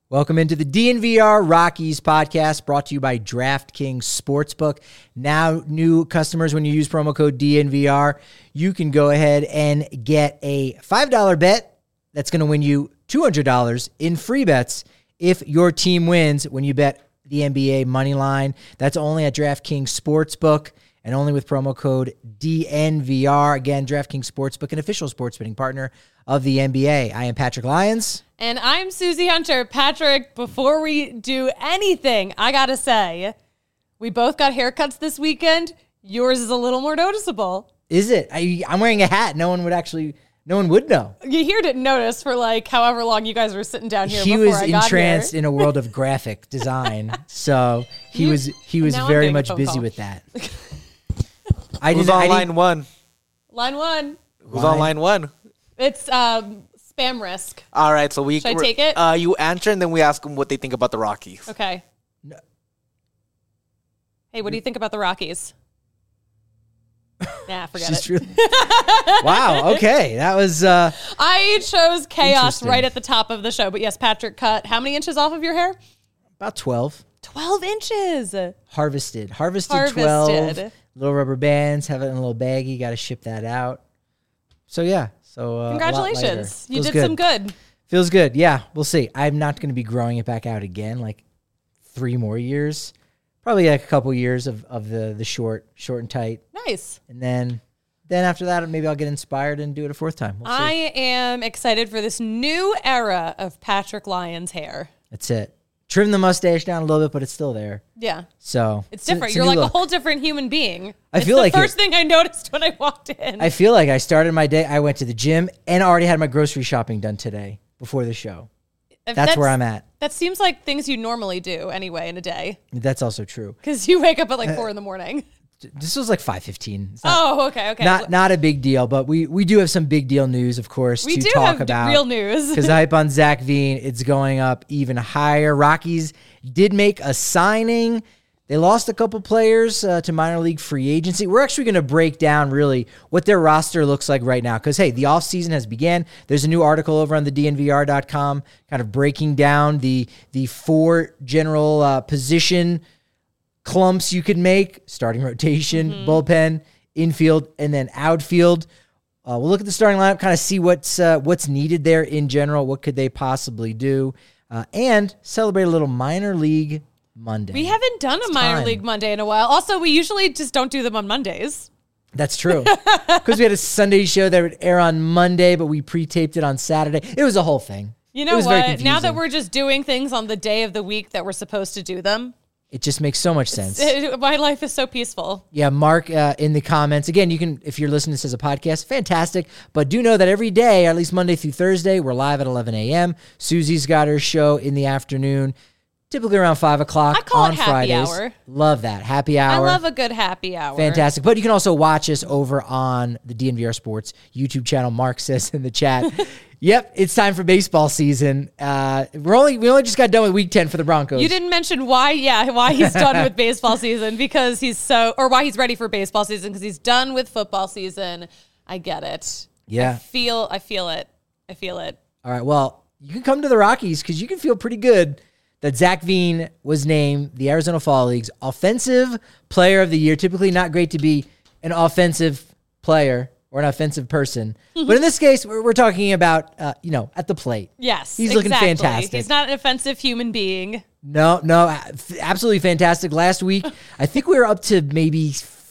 Welcome into the DNVR Rockies podcast brought to you by DraftKings Sportsbook. Now, new customers, when you use promo code DNVR, you can go ahead and get a $5 bet that's going to win you $200 in free bets if your team wins when you bet the NBA money line. That's only at DraftKings Sportsbook and only with promo code DNVR. Again, DraftKings Sportsbook, an official sports betting partner of the NBA. I am Patrick Lyons. And I'm Susie Hunter. Patrick, before we do anything, I gotta say, we both got haircuts this weekend. Yours is a little more noticeable. Is it? I'm wearing a hat. No one would know. You here didn't notice for like however long you guys were sitting down here. He was entranced in a world of graphic design, so he was very much busy with that. Who's on line one? Line one. Who's on line one? It's spam risk. All right, so should I take it? You answer, and then we ask them what they think about the Rockies. Okay. No. Hey, what do you think about the Rockies? Nah, forget it. Really... Wow. Okay, that was. I chose chaos right at the top of the show, but yes, Patrick cut how many inches off of your hair? About 12. 12 inches. Harvested 12. Little rubber bands. Have it in a little baggie. Got to ship that out. So yeah. So congratulations. You did some good. Feels good. Yeah, we'll see. I'm not going to be growing it back out again. Like 3 more years. Probably like a couple years of the short and tight. Nice. And then after that, maybe I'll get inspired and do it a 4th time. We'll see. I am excited for this new era of Patrick Lyons hair. That's it. Trim the mustache down a little bit, but it's still there. Yeah. So it's different. You're like a whole different human being. I feel like the first thing I noticed when I walked in. I feel like I started my day. I went to the gym and already had my grocery shopping done today before the show. That's where I'm at. That seems like things you normally do anyway in a day. That's also true. Because you wake up at like 4 in the morning. This was like 5:15. Okay. Not a big deal, but we do have some big deal news, of course, to talk about. Real news. Because the hype on Zach Veen, it's going up even higher. Rockies did make a signing. They lost a couple players to minor league free agency. We're actually going to break down really what their roster looks like right now. Because, hey, the offseason has began. There's a new article over on the DNVR.com kind of breaking down the 4 general position clumps you could make: starting rotation, bullpen, infield, and then outfield. We'll look at the starting lineup, kind of see what's needed there in general. What could they possibly do? And celebrate a little minor league Monday. We haven't done a minor league Monday in a while. Also, we usually just don't do them on Mondays. That's true. Because we had a Sunday show that would air on Monday, but we pre-taped it on Saturday. It was a whole thing. You know what? Now that we're just doing things on the day of the week that we're supposed to do them, it just makes so much sense. My life is so peaceful. Yeah, Mark, in the comments. Again, you can, if you're listening to this as a podcast, fantastic. But do know that every day, or at least Monday through Thursday, we're live at 11 a.m. Susie's got her show in the afternoon, typically around 5 o'clock I call on it happy Fridays. Hour. Love that. Happy hour. I love a good happy hour. Fantastic. But you can also watch us over on the DNVR Sports YouTube channel. Mark says in the chat, yep, it's time for baseball season. We only just got done with week 10 for the Broncos. You didn't mention why he's done with baseball season, because why he's ready for baseball season, because he's done with football season. I get it. Yeah. I feel it. All right, well, you can come to the Rockies because you can feel pretty good that Zach Veen was named the Arizona Fall League's Offensive Player of the Year. Typically not great to be an offensive player or an offensive person. But in this case, we're talking about, at the plate. Yes, he's looking fantastic. He's not an offensive human being. No, absolutely fantastic. Last week, I think we were up to maybe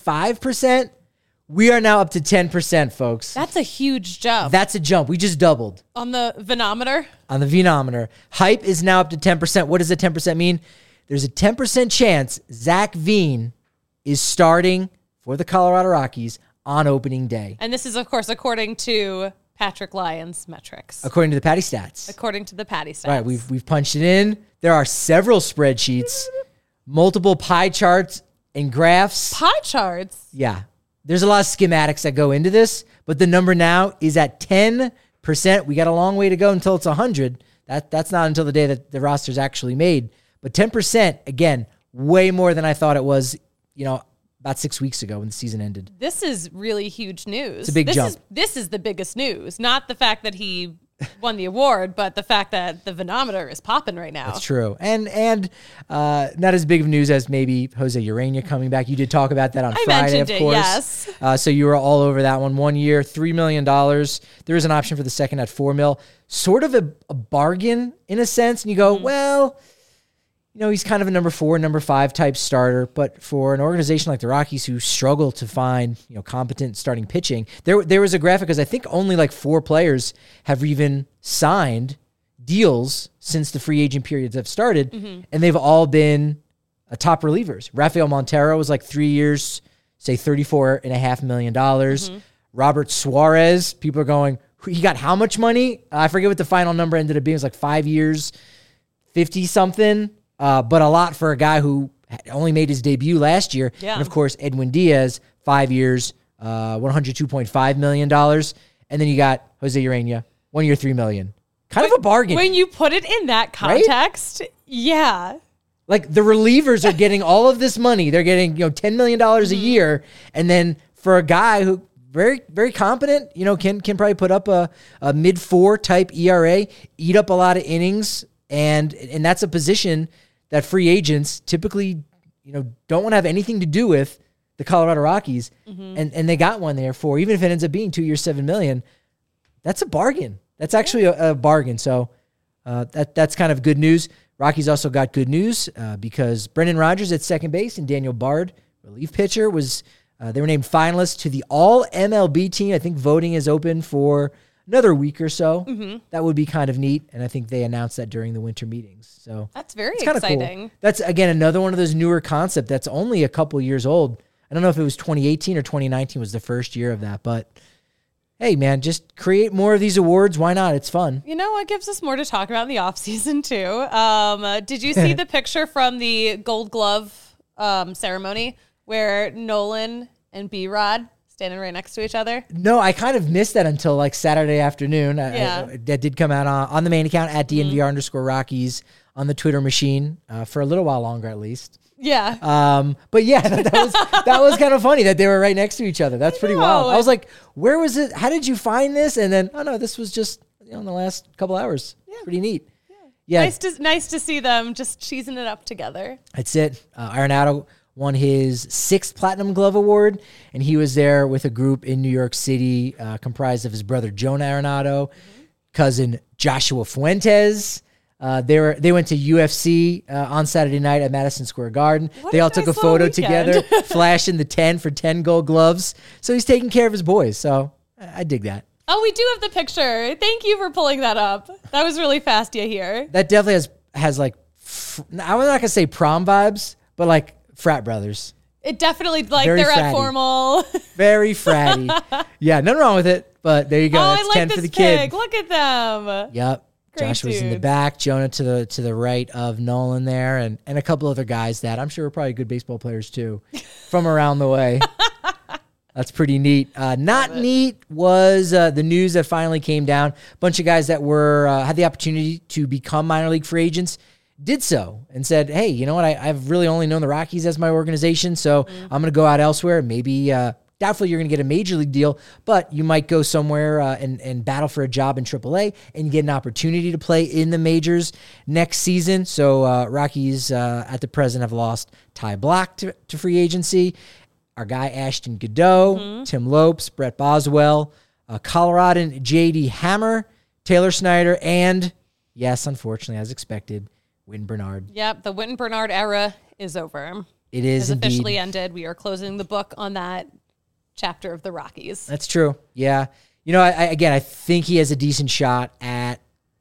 5%. We are now up to 10%, folks. That's a huge jump. That's a jump. We just doubled. On the Venometer? On the Venometer. Hype is now up to 10%. What does the 10% mean? There's a 10% chance Zach Veen is starting for the Colorado Rockies on opening day. And this is, of course, according to Patrick Lyons' metrics. According to the Patty Stats. According to the Patty Stats. All right, we've punched it in. There are several spreadsheets, multiple pie charts and graphs. Pie charts? Yeah. There's a lot of schematics that go into this, but the number now is at 10%. We got a long way to go until it's 100. That's not until the day that the roster's actually made. But 10%, again, way more than I thought it was, about 6 weeks ago when the season ended. This is really huge news. It's a big jump. This is the biggest news, not the fact that he won the award, but the fact that the Venometer is popping right now. That's true. And not as big of news as maybe Jose Urena coming back. You did talk about that on Friday, of course. Yes. So you were all over that one. 1 year, $3 million. There is an option for the second at $4 million. Sort of a bargain in a sense. And you go, well, he's kind of a number 4, number 5 type starter. But for an organization like the Rockies who struggle to find, competent starting pitching, there was a graphic because I think only like 4 players have even signed deals since the free agent periods have started. And they've all been top relievers. Rafael Montero was like 3 years, say $34.5 million. Robert Suarez, people are going, he got how much money? I forget what the final number ended up being. It was like 5 years, 50 something. But a lot for a guy who only made his debut last year. Yeah. And of course, Edwin Diaz, 5 years, $102.5 million. And then you got Jose Urena, 1 year, $3 million. Kind of a bargain. When you put it in that context, yeah. Like the relievers are getting all of this money. They're getting, $10 million a year. And then for a guy who very, very competent, can probably put up a mid-4 type ERA, eat up a lot of innings. And that's a position that free agents typically, don't want to have anything to do with the Colorado Rockies. And they got one there for, even if it ends up being 2 years, $7 million, that's a bargain. That's actually a bargain. So that's kind of good news. Rockies also got good news because Brendan Rodgers at second base and Daniel Bard, relief pitcher, they were named finalists to the All-MLB team. I think voting is open for another week or so. That would be kind of neat. And I think they announced that during the winter meetings. So that's very exciting. Cool. That's, again, another one of those newer concepts that's only a couple years old. I don't know if it was 2018 or 2019 was the first year of that, but hey, man, just create more of these awards. Why not? It's fun. It gives us more to talk about in the offseason, too. Did you see the picture from the Gold Glove ceremony where Nolan and B-Rod standing right next to each other? No, I kind of missed that until like Saturday afternoon. That did come out on the main account at DNVR_Rockies on the Twitter machine for a little while longer, at least. Yeah. But yeah, that was kind of funny that they were right next to each other. That's pretty wild. I was like, where was it? How did you find this? And then, oh no, this was just in the last couple hours. Yeah. Pretty neat. Yeah. Nice to see them just cheesing it up together. That's it. Arenado won his 6th Platinum Glove Award, and he was there with a group in New York City comprised of his brother Jonah Arenado, cousin Joshua Fuentes. They went to UFC on Saturday night at Madison Square Garden. They all took a photo together, flashing the 10 for 10 gold gloves. So he's taking care of his boys. So I dig that. Oh, we do have the picture. Thank you for pulling that up. That was really fast here. That definitely has like, I'm not going to say prom vibes, but like frat brothers. It definitely, like, Very they're fratty. at formal. Very fratty. Yeah, nothing wrong with it, but there you go. That's I like 10 this for the pic. kid. Look at them. Yep. Great Josh was in the dudes. back, Jonah to the right of Nolan there, and a couple other guys that I'm sure were probably good baseball players too from around the way. That's pretty neat. Not neat was the news that finally came down. A bunch of guys that were had the opportunity to become minor league free agents did so and said, hey, you know what? I've really only known the Rockies as my organization, so I'm going to go out elsewhere. Maybe doubtful you're going to get a major league deal, but you might go somewhere and battle for a job in AAA and get an opportunity to play in the majors next season. So Rockies at the present have lost Ty Block to free agency. Our guy Ashton Godot, Tim Lopes, Brett Boswell, Coloradan J.D. Hammer, Taylor Snyder, and, yes, unfortunately, as expected, Wynn Bernard. Yep, the Wynn Bernard era is over. It is indeed. Officially indeed. ended. We are closing the book on that chapter of the Rockies. That's true. Yeah. I think he has a decent shot at,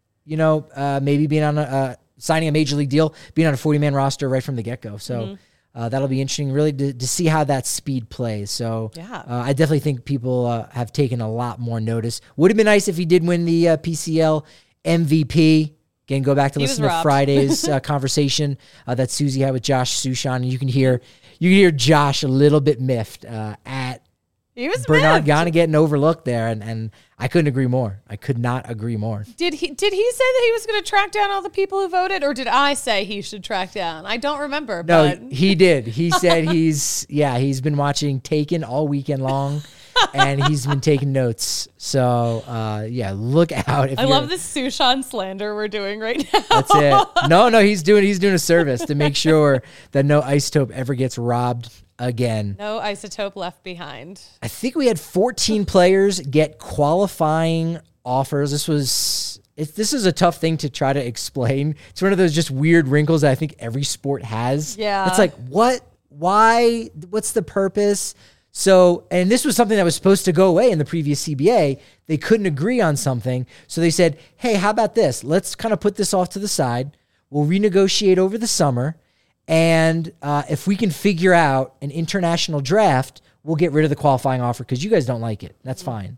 maybe being on signing a major league deal, being on a 40-man roster right from the get-go. So that'll be interesting, really, to see how that speed plays. So I definitely think people have taken a lot more notice. Would have been nice if he did win the PCL MVP. Again, go back to listen to Friday's conversation that Susie had with Josh Sushan, and you can hear Josh a little bit miffed at Bernard Gana getting overlooked there, and I couldn't agree more. I could not agree more. Did he say that he was going to track down all the people who voted, or did I say he should track down? I don't remember. No, he did. He said he's been watching Taken all weekend long, and he's been taking notes. So, look out. I love this Sushan slander we're doing right now. That's it. No, he's doing a service to make sure that no Isotope ever gets robbed again. No Isotope left behind. I think we had 14 players get qualifying offers. This is a tough thing to try to explain. It's one of those just weird wrinkles that I think every sport has. Yeah. It's like, what? Why? What's the purpose? So, and this was something that was supposed to go away in the previous CBA. They couldn't agree on something. So they said, hey, how about this? Let's kind of put this off to the side. We'll renegotiate over the summer. And if we can figure out an international draft, we'll get rid of the qualifying offer because you guys don't like it. That's fine.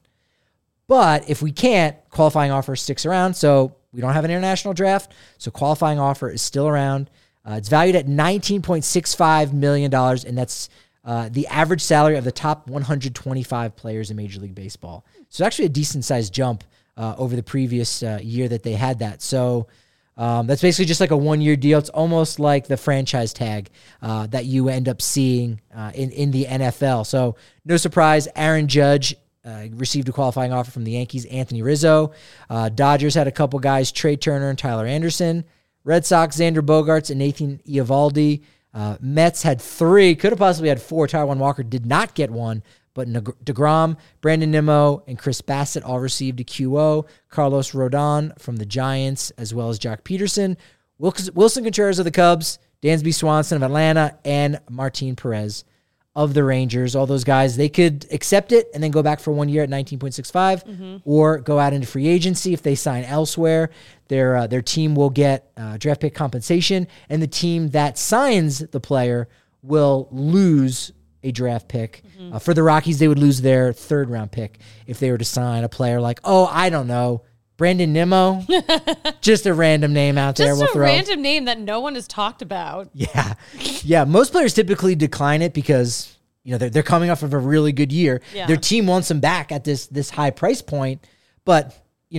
But if we can't, qualifying offer sticks around. So we don't have an international draft. So qualifying offer is still around. It's valued at $19.65 million, and that's the average salary of the top 125 players in Major League Baseball. So actually a decent-sized jump over the previous year that they had that. So that's basically just like a one-year deal. It's almost like the franchise tag that you end up seeing in the NFL. So no surprise, Aaron Judge received a qualifying offer from the Yankees, Anthony Rizzo. Dodgers had a couple guys, Trey Turner and Tyler Anderson. Red Sox, Xander Bogaerts and Nathan Eovaldi. Mets had 3, could have possibly had 4. Taijuan Walker did not get one, but DeGrom, Brandon Nimmo, and Chris Bassett all received a QO. Carlos Rodon from the Giants, as well as Jock Peterson. Wilson Contreras of the Cubs, Dansby Swanson of Atlanta, and Martin Perez of the Rangers. All those guys, they could accept it and then go back for 1 year at 19.65 or go out into free agency if they sign elsewhere. Their team will get draft pick compensation, and the team that signs the player will lose a draft pick. For the Rockies, they would lose their 3rd round pick if they were to sign a player like, I don't know, Brandon Nimmo. Just a random name out there. Just a random name that no one has talked about. Yeah. Yeah. Most players typically decline it because, they're coming off of a really good year. Yeah. Their team wants them back at this high price point, but,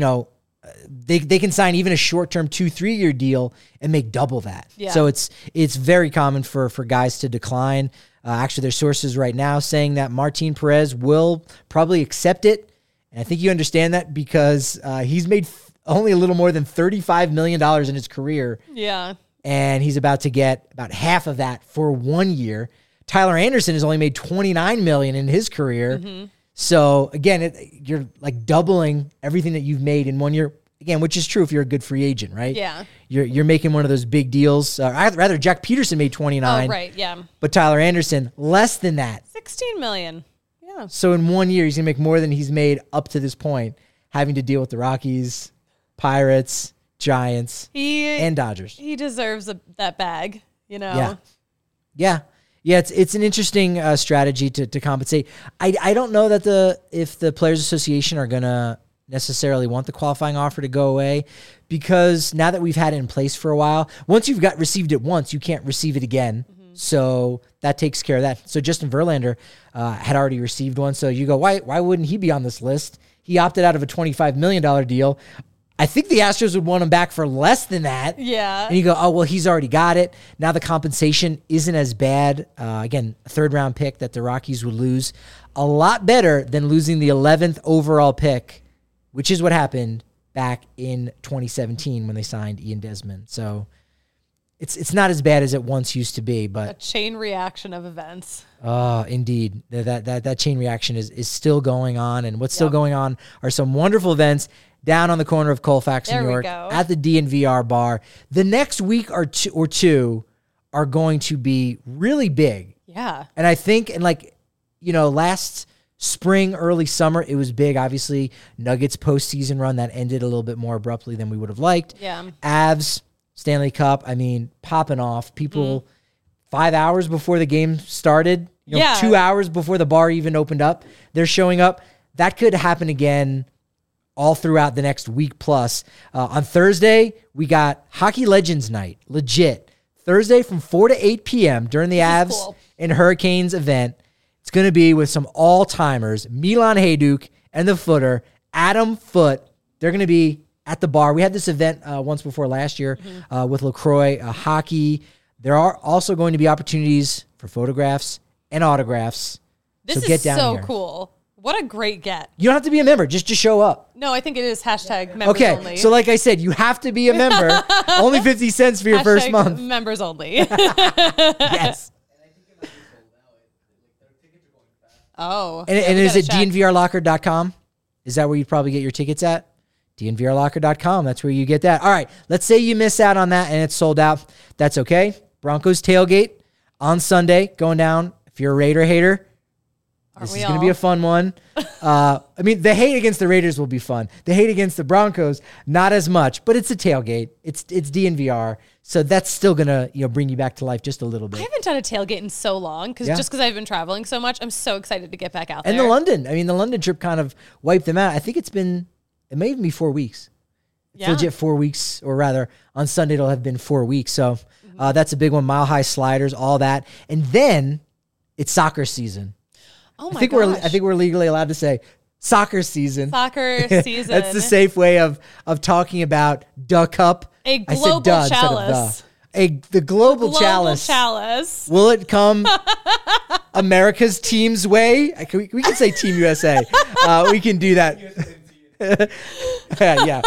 they can sign even a short-term 2-3 year deal and make double that. Yeah. So it's very common for guys to decline. Actually, there's sources right now saying that Martin Perez will probably accept it. And I think you understand that because he's made only a little more than $35 million in his career. Yeah. And he's about to get about half of that for 1 year. Tyler Anderson has only made $29 million in his career. So again, you're like doubling everything that you've made in 1 year. Again, which is true if you're a good free agent, right? Yeah. You're making one of those big deals. Rather, Jack Peterson made 29. Oh, right. Yeah. But Tyler Anderson, less than that. 16 million. Yeah. So in 1 year, he's going to make more than he's made up to this point, having to deal with the Rockies, Pirates, Giants, and Dodgers. He deserves that bag, Yeah. Yeah, it's an interesting strategy to compensate. I don't know that if the Players Association are going to necessarily want the qualifying offer to go away, because now that we've had it in place for a while, once you've received it once, you can't receive it again. So that takes care of that. So Justin Verlander had already received one. So you go, why wouldn't he be on this list? He opted out of a $25 million deal. I think the Astros would want him back for less than that. Yeah. And you go, well, he's already got it. Now the compensation isn't as bad. Again, a 3rd round pick that the Rockies would lose. A lot better than losing the 11th overall pick, which is what happened back in 2017 when they signed Ian Desmond. So it's not as bad as it once used to be, but a chain reaction of events. Oh, indeed. That chain reaction is still going on, and what's still going on are some wonderful events down on the corner of Colfax, New York, at the DNVR bar. The next week or two are going to be really big. Yeah. And I think, last spring, early summer, it was big. Obviously, Nuggets postseason run that ended a little bit more abruptly than we would have liked. Yeah. Avs, Stanley Cup, popping off. People 5 hours before the game started, 2 hours before the bar even opened up, they're showing up. That could happen again all throughout the next week plus. On Thursday, we got Hockey Legends Night, legit. Thursday from 4 to 8 p.m. during the Avs and Hurricanes event. It's going to be with some all-timers, Milan Hajduk and the Footer, Adam Foote. They're going to be at the bar. We had this event once before last year with LaCroix hockey. There are also going to be opportunities for photographs and autographs. This so get is down so here. cool. What a great get. You don't have to be a member. Just show up. No, I think it is hashtag members only. So like I said, you have to be a member. Only 50 cents for your first month. Members only. Yes. Oh. And is it dnvrlocker.com? Is that where you'd probably get your tickets at? dnvrlocker.com. That's where you get that. All right. Let's say you miss out on that and it's sold out. That's okay. Broncos tailgate on Sunday going down. If you're a Raider hater, this is going to be a fun one. I mean, the hate against the Raiders will be fun. The hate against the Broncos, not as much, but it's a tailgate. It's DNVR. So that's still going to bring you back to life just a little bit. I haven't done a tailgate in so long just because I've been traveling so much. I'm so excited to get back out there. And the London trip kind of wiped them out. I think it may even be 4 weeks. It's legit 4 weeks, or rather on Sunday it'll have been 4 weeks. So that's a big one. Mile High sliders, all that. And then it's soccer season. Oh my gosh. I think we're legally allowed to say soccer season. Soccer season. That's the safe way of talking about Duh Cup. A global chalice. The global chalice. Will it come America's team's way? We can say Team USA. We can do that. Yeah.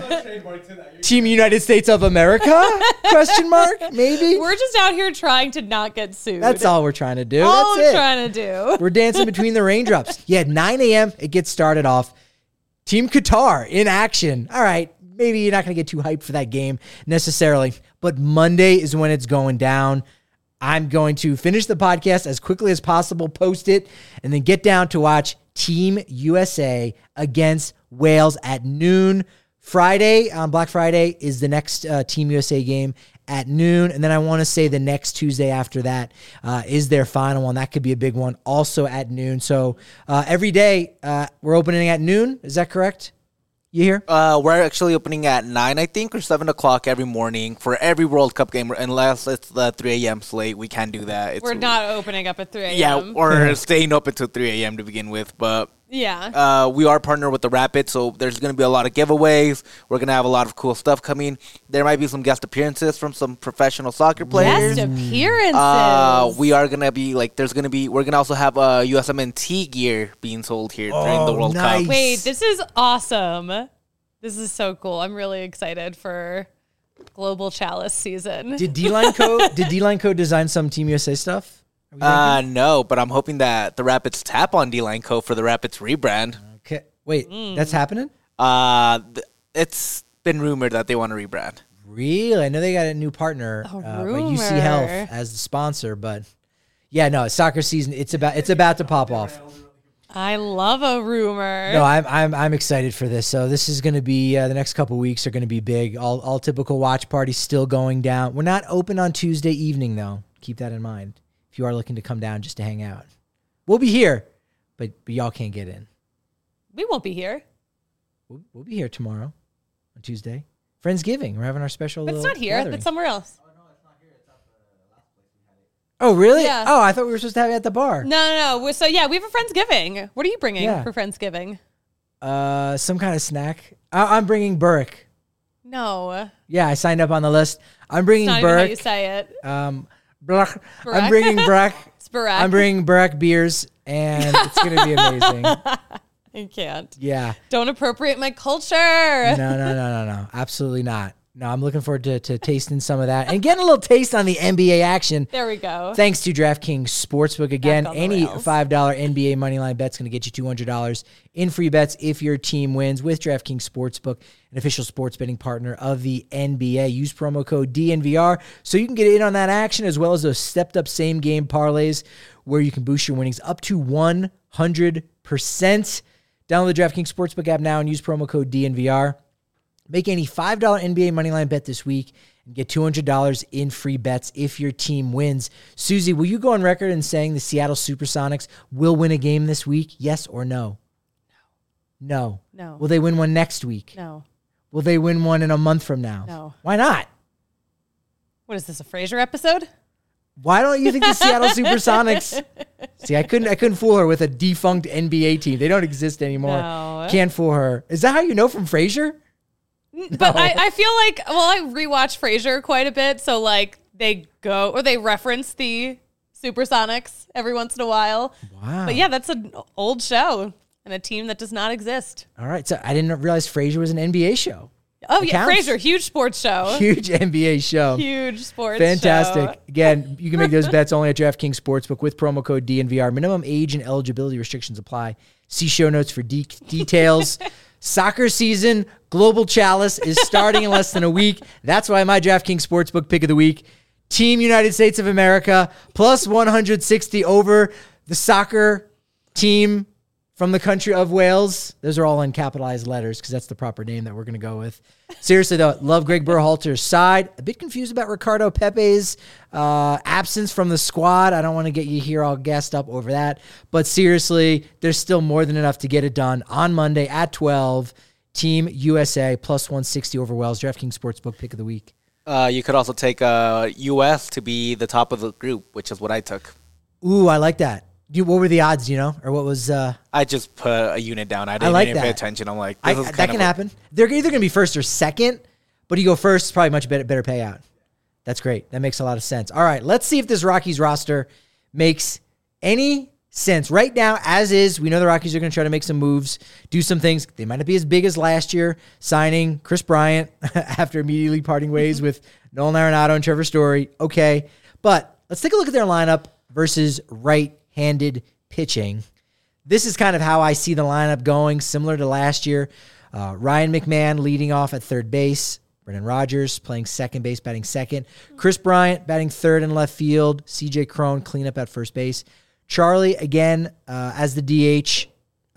Team United States of America? Question mark? Maybe. We're just out here trying to not get sued. That's all we're trying to do. All That's we're trying to do. We're dancing between the raindrops. Yeah, 9 a.m. it gets started off. Team Qatar in action. All right. Maybe you're not going to get too hyped for that game necessarily, but Monday is when it's going down. I'm going to finish the podcast as quickly as possible, post it, and then get down to watch Team USA against Wales at noon. Friday, on Black Friday, is the next Team USA game at noon. And then I want to say the next Tuesday after that is their final one. That could be a big one, also at noon. So every day we're opening at noon. Is that correct? You hear? We're actually opening at 9, I think, or 7 o'clock every morning for every World Cup game, unless it's the 3 a.m. slate. We can't do that. We're not opening up at 3 a.m. Yeah, or staying up until 3 a.m. to begin with. But yeah, we are partnered with the Rapids, so there's going to be a lot of giveaways. We're going to have a lot of cool stuff coming. There might be some guest appearances from some professional soccer players. Guest appearances. We are going to be we're going to also have USMNT gear being sold here during the World Cup. Wait, this is awesome. This is so cool. I'm really excited for Global Chalice season. Did D-Line Co design some Team USA stuff? No, but I'm hoping that the Rapids tap on D-Line Co for the Rapids rebrand. Okay. Wait, that's happening? It's been rumored that they want to rebrand. Really? I know they got a new partner, UC Health as the sponsor, but yeah, no, soccer season. It's about to pop off. I love a rumor. No, I'm excited for this. So this is going to be the next couple weeks are going to be big. All typical watch parties still going down. We're not open on Tuesday evening though. Keep that in mind. If you are looking to come down just to hang out, we'll be here, but y'all can't get in. We won't be here. We'll be here tomorrow on Tuesday. Friendsgiving. We're having our special. But it's not here. It's somewhere else. Oh, really? Yeah. Oh, I thought we were supposed to have it at the bar. No. So, yeah, we have a Friendsgiving. What are you bringing for Friendsgiving? Some kind of snack. I'm bringing Burke. No. Yeah, I signed up on the list. I'm bringing Burke. Burke. How you say it? Burke. I'm bringing Burke. It's Burke. I'm bringing Burke beers, and it's going to be amazing. I can't. Yeah. Don't appropriate my culture. No. Absolutely not. No, I'm looking forward to tasting some of that and getting a little taste on the NBA action. There we go. Thanks to DraftKings Sportsbook. Again, any $5 NBA moneyline bet's going to get you $200 in free bets if your team wins with DraftKings Sportsbook, an official sports betting partner of the NBA. Use promo code DNVR so you can get in on that action, as well as those stepped-up same-game parlays where you can boost your winnings up to 100%. Download the DraftKings Sportsbook app now and use promo code DNVR. Make any $5 NBA moneyline bet this week and get $200 in free bets if your team wins. Susie, will you go on record in saying the Seattle Supersonics will win a game this week? Yes or no? No. Will they win one next week? No. Will they win one in a month from now? No. Why not? What is this, a Frasier episode? Why don't you think the Seattle Supersonics? See, I couldn't fool her with a defunct NBA team. They don't exist anymore. No. Can't fool her. Is that how you know from Frasier? But I feel like, I rewatch Frasier quite a bit, so they reference the Supersonics every once in a while. Wow. But yeah, that's an old show. and a team that does not exist. All right. So I didn't realize Frasier was an NBA show. Oh, yeah. Counts. Frasier, huge sports show. Huge NBA show. Huge sports Fantastic. show. Again, you can make those bets only at DraftKings Sportsbook with promo code DNVR. Minimum age and eligibility restrictions apply. See show notes for details. Soccer season, Global Chalice is starting in less than a week. That's why my DraftKings Sportsbook pick of the week, Team United States of America, plus 160 over the soccer team from the country of Wales. Those are all in capitalized letters because that's the proper name that we're going to go with. Seriously, though, love Greg Berhalter's side. A bit confused about Ricardo Pepe's absence from the squad. I don't want to get you here all gassed up over that. But seriously, there's still more than enough to get it done on Monday at 12. Team USA plus 160 over Wales. DraftKings Sportsbook pick of the week. You could also take U.S. to be the top of the group, which is what I took. Ooh, I like that. What were the odds, or what was... I just put a unit down. I didn't even pay attention. I'm like, this is that can happen. They're either going to be first or second, but you go first, probably much better payout. That's great. That makes a lot of sense. All right, let's see if this Rockies roster makes any sense. Right now, as is, we know the Rockies are going to try to make some moves, do some things. They might not be as big as last year, signing Chris Bryant after immediately parting ways with Nolan Arenado and Trevor Story. Okay, but let's take a look at their lineup versus right-handed pitching. This is kind of how I see the lineup going, similar to last year. Ryan McMahon leading off at third base. Brendan Rodgers playing second base, batting second. Chris Bryant batting third in left field. CJ Cron cleanup at first base. Charlie, again, as the DH.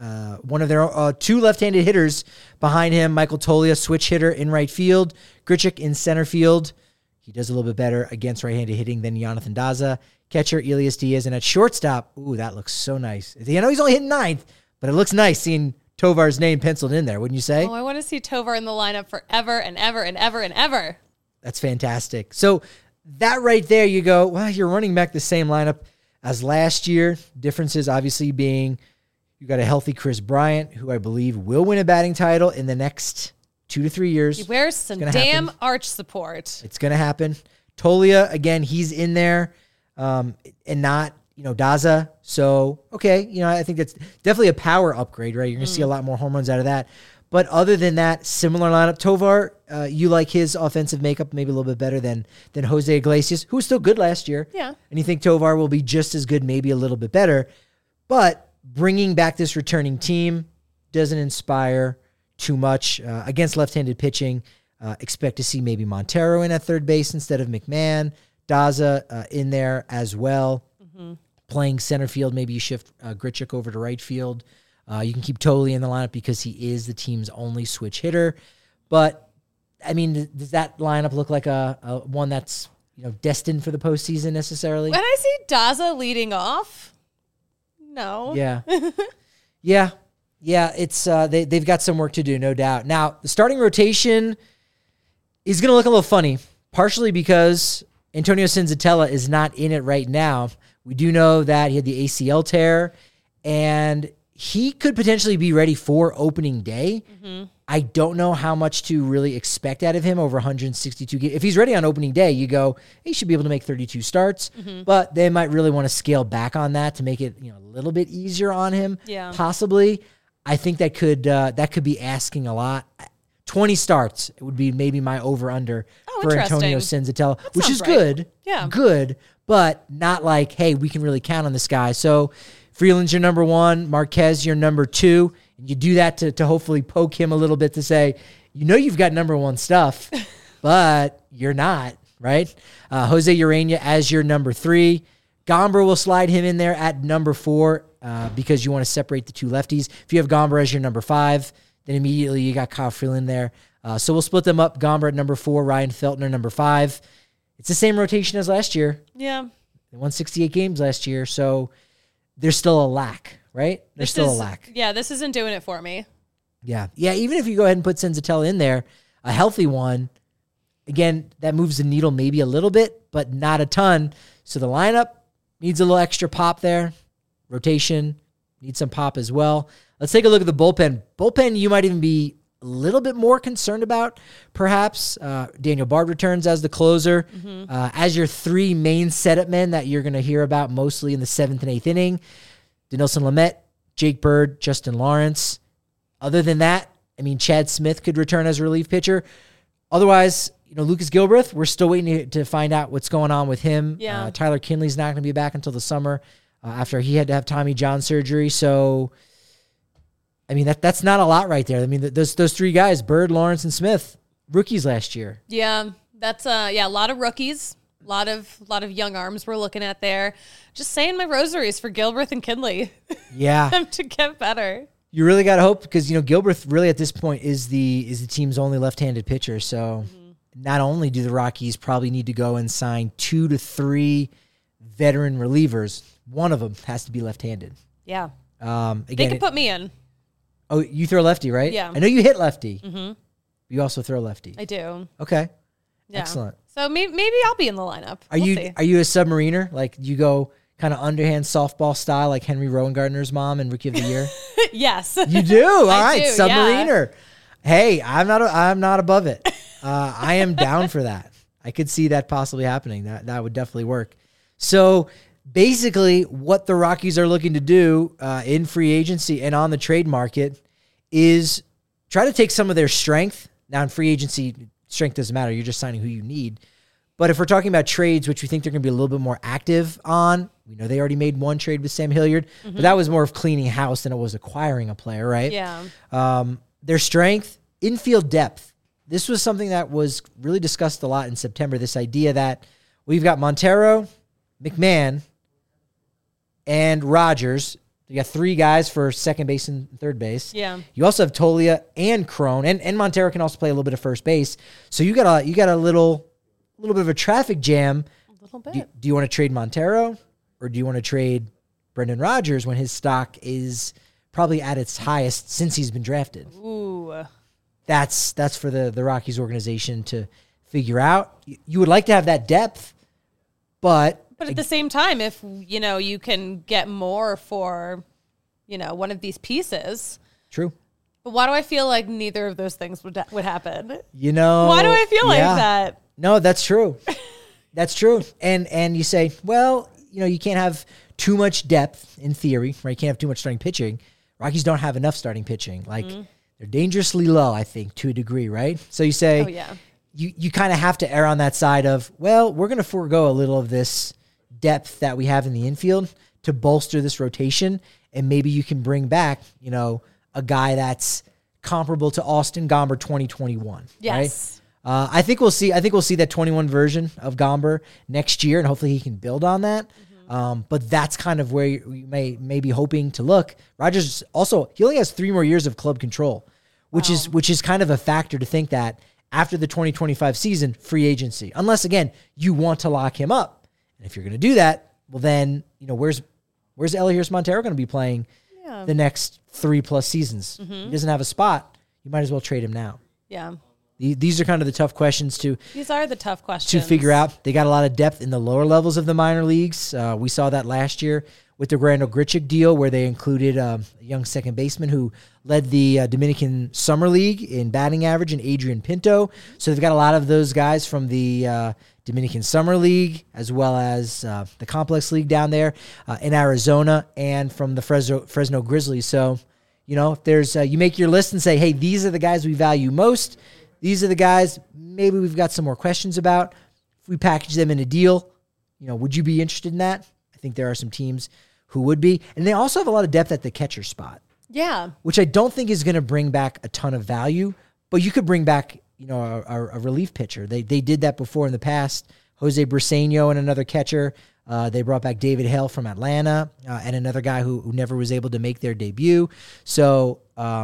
One of their two left-handed hitters behind him. Michael Toglia, switch hitter in right field. Grichuk in center field. He does a little bit better against right-handed hitting than Jonathan Daza. Catcher, Elias Diaz. And at shortstop, ooh, that looks so nice. I know he's only hitting ninth, but it looks nice seeing Tovar's name penciled in there, wouldn't you say? Oh, I want to see Tovar in the lineup forever and ever and ever and ever. That's fantastic. So that right there, you go, well, you're running back the same lineup as last year. Differences obviously being you got a healthy Chris Bryant, who I believe will win a batting title in the next 2 to 3 years. He wears some damn arch support. It's going to happen. Toglia, again, he's in there and not, Daza. So, okay, I think that's definitely a power upgrade, right? You're going to see a lot more home runs out of that. But other than that, similar lineup. Tovar, you like his offensive makeup maybe a little bit better than Jose Iglesias, who was still good last year. Yeah. And you think Tovar will be just as good, maybe a little bit better. But bringing back this returning team doesn't inspire too much. Against left-handed pitching, expect to see maybe Montero in at third base instead of McMahon. Daza in there as well. Mm-hmm. Playing center field, maybe you shift Grichuk over to right field. You can keep Toglia in the lineup because he is the team's only switch hitter. But, does that lineup look like a one that's destined for the postseason necessarily? When I see Daza leading off, no. Yeah. Yeah, it's they've got some work to do, no doubt. Now, the starting rotation is going to look a little funny, partially because Antonio Senzatella is not in it right now. We do know that he had the ACL tear, and he could potentially be ready for opening day. Mm-hmm. I don't know how much to really expect out of him over 162 games. If he's ready on opening day, you go, he should be able to make 32 starts, but they might really want to scale back on that to make it a little bit easier on him. Yeah. Possibly. I think that could be asking a lot. 20 starts, it would be maybe my over-under for Antonio Senzatella, which is good. Yeah. Good, but not like, hey, we can really count on this guy. So Freeland's your number one, Marquez your number two, and you do that to hopefully poke him a little bit to say, you've got number one stuff, but you're not, right? Jose Urena as your number three. Gomber will slide him in there at number four because you want to separate the two lefties. If you have Gomber as your number five, then immediately you got Kyle Freeland there. So we'll split them up. Gomber at number four, Ryan Feltner number five. It's the same rotation as last year. Yeah. They won 68 games last year, so there's still a lack, right? There's still a lack. Yeah, this isn't doing it for me. Yeah. Yeah, even if you go ahead and put Senzatella in there, a healthy one, again, that moves the needle maybe a little bit, but not a ton. So the lineup needs a little extra pop there. Rotation needs some pop as well. Let's take a look at the bullpen. Bullpen, you might even be a little bit more concerned about, perhaps. Daniel Bard returns as the closer. Mm-hmm. As your three main setup men that you're going to hear about mostly in the 7th and 8th inning, Dinelson Lamet, Jake Bird, Justin Lawrence. Other than that, I mean, Chad Smith could return as a relief pitcher. Otherwise, Lucas Gilbreth, we're still waiting to find out what's going on with him. Yeah. Tyler Kinley's not going to be back until the summer after he had to have Tommy John surgery. So, I mean, that's not a lot right there. I mean, those three guys, Bird, Lawrence, and Smith, rookies last year. Yeah, that's a lot of rookies. A lot of young arms we're looking at there. Just saying my rosaries for Gilbreth and Kinley. Yeah. Them to get better. You really got to hope because, Gilbreth really at this point is the team's only left-handed pitcher. So not only do the Rockies probably need to go and sign 2 to 3 veteran relievers, one of them has to be left-handed. Yeah. Again, They could put me in. Oh, you throw lefty, right? Yeah. I know you hit lefty. Mm-hmm. You also throw lefty. I do. Okay. Yeah. Excellent. So maybe I'll be in the lineup. Are you a submariner? Like you go kind of underhand softball style like Henry Rowan-Gardner's mom in Rookie of the Year? Yes. You do? All right, do, submariner. Yeah. Hey, I'm not above it. I am down for that. I could see that possibly happening. That would definitely work. So basically what the Rockies are looking to do in free agency and on the trade market is try to take some of their strength. Now in free agency, strength doesn't matter. You're just signing who you need. But if we're talking about trades, which we think they're going to be a little bit more active on, we know they already made one trade with Sam Hilliard, but that was more of cleaning house than it was acquiring a player, right? Yeah. Their strength, infield depth. This was something that was really discussed a lot in September, this idea that we've got Montero, McMahon, and Rogers. You got 3 guys for second base and third base. Yeah. You also have Tolia and Crone, and Montero can also play a little bit of first base. So you got a little bit of a traffic jam. A little bit. Do you want to trade Montero or do you want to trade Brendan Rodgers when his stock is probably at its highest since he's been drafted? Ooh. That's for the Rockies organization to figure out. You would like to have that depth, but at the same time, if you can get more for one of these pieces. True. But why do I feel like neither of those things would happen? Why do I feel like that? No, that's true. That's true. And you say, well, you can't have too much depth in theory, right? You can't have too much starting pitching. Rockies don't have enough starting pitching. Like they're dangerously low, I think, to a degree, right? So you say, oh, yeah. You kind of have to err on that side of, well, we're going to forego a little of this depth that we have in the infield to bolster this rotation, and maybe you can bring back, a guy that's comparable to Austin Gomber 2021. Yes. Right? I think we'll see that 21 version of Gomber next year, and hopefully he can build on that. But that's kind of where you may be hoping to look. Rodgers also, he only has 3 more years of club control, which is kind of a factor to think that after the 2025 season, free agency, unless again you want to lock him up. And if you're going to do that, well then, where's Elias Montero going to be playing the next 3+ seasons? He doesn't have a spot. You might as well trade him now. Yeah. These are kind of the tough questions These are the tough questions to figure out. They got a lot of depth in the lower levels of the minor leagues. We saw that last year with the Randal Grichuk deal, where they included a young second baseman who led the Dominican Summer League in batting average, and Adrian Pinto. So they've got a lot of those guys from the Dominican Summer League, as well as the Complex League down there in Arizona, and from the Fresno Grizzlies. So, if there's you make your list and say, hey, these are the guys we value most. These are the guys maybe we've got some more questions about. If we package them in a deal, would you be interested in that? I think there are some teams who would be. And they also have a lot of depth at the catcher spot. Yeah. Which I don't think is going to bring back a ton of value, but you could bring back, a relief pitcher. They did that before in the past. Jose Briseño and another catcher. They brought back David Hale from Atlanta and another guy who never was able to make their debut. So,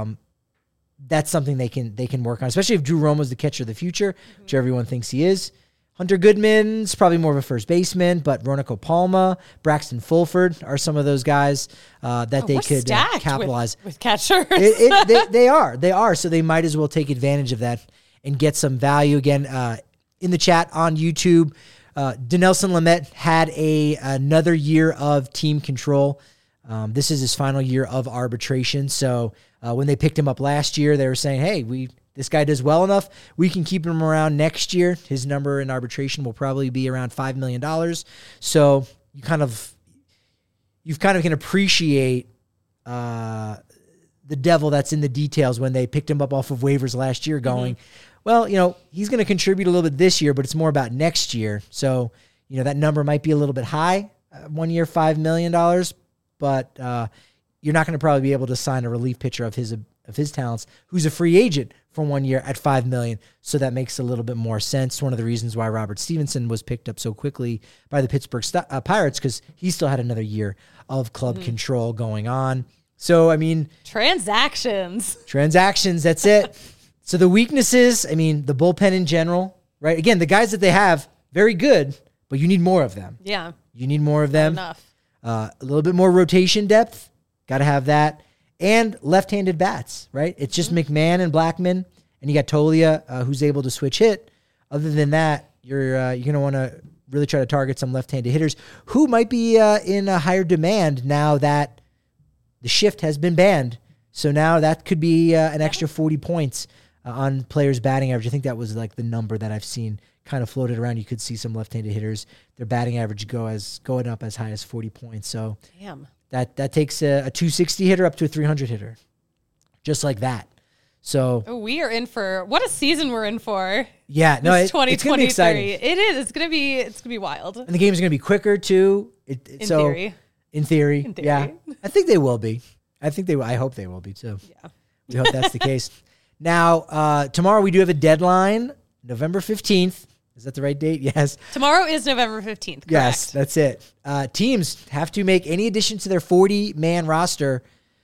that's something they can work on, especially if Drew Romo's the catcher of the future, which everyone thinks he is. Hunter Goodman's probably more of a first baseman, but Ronico Palma, Braxton Fulford are some of those guys that they could capitalize with catchers. They are. So they might as well take advantage of that and get some value. Again, in the chat on YouTube, Dinelson Lamet had another year of team control. This is his final year of arbitration. So when they picked him up last year, they were saying, hey, this guy does well enough. We can keep him around next year. His number in arbitration will probably be around $5 million. So you kind of can appreciate the devil that's in the details when they picked him up off of waivers last year going, well, he's going to contribute a little bit this year, but it's more about next year. So, that number might be a little bit high, 1 year, $5 million, but you're not going to probably be able to sign a relief pitcher of his talents who's a free agent for 1 year at $5 million. So that makes a little bit more sense. One of the reasons why Robert Stevenson was picked up so quickly by the Pittsburgh Pirates, because he still had another year of club control going on. So, transactions, that's it. So the weaknesses, the bullpen in general, right? Again, the guys that they have, very good, but you need more of them. Yeah. You need more of them. Not enough. A little bit more rotation depth. Got to have that. And left-handed bats, right? It's just McMahon and Blackmon, and you got Tolia, who's able to switch hit. Other than that, you're going to want to really try to target some left-handed hitters who might be in a higher demand now that the shift has been banned. So now that could be an extra 40 points on players' batting average. I think that was like the number that I've seen kind of floated around. You could see some left-handed hitters, their batting average going up as high as 40 points. So damn. That takes a 260 hitter up to a 300 hitter, just like that. So we are in for what a season we're in for. Yeah, no, it's 2023. It's gonna be exciting. It is. It's gonna be wild. And the game's gonna be quicker too. In theory. In theory, yeah. I think they will be. I hope they will be too. Yeah. We hope that's the case. Now, tomorrow we do have a deadline, November 15th. Is that the right date? Yes. Tomorrow is November 15th. Correct. Yes, that's it. Teams have to make any additions to their 40-man roster,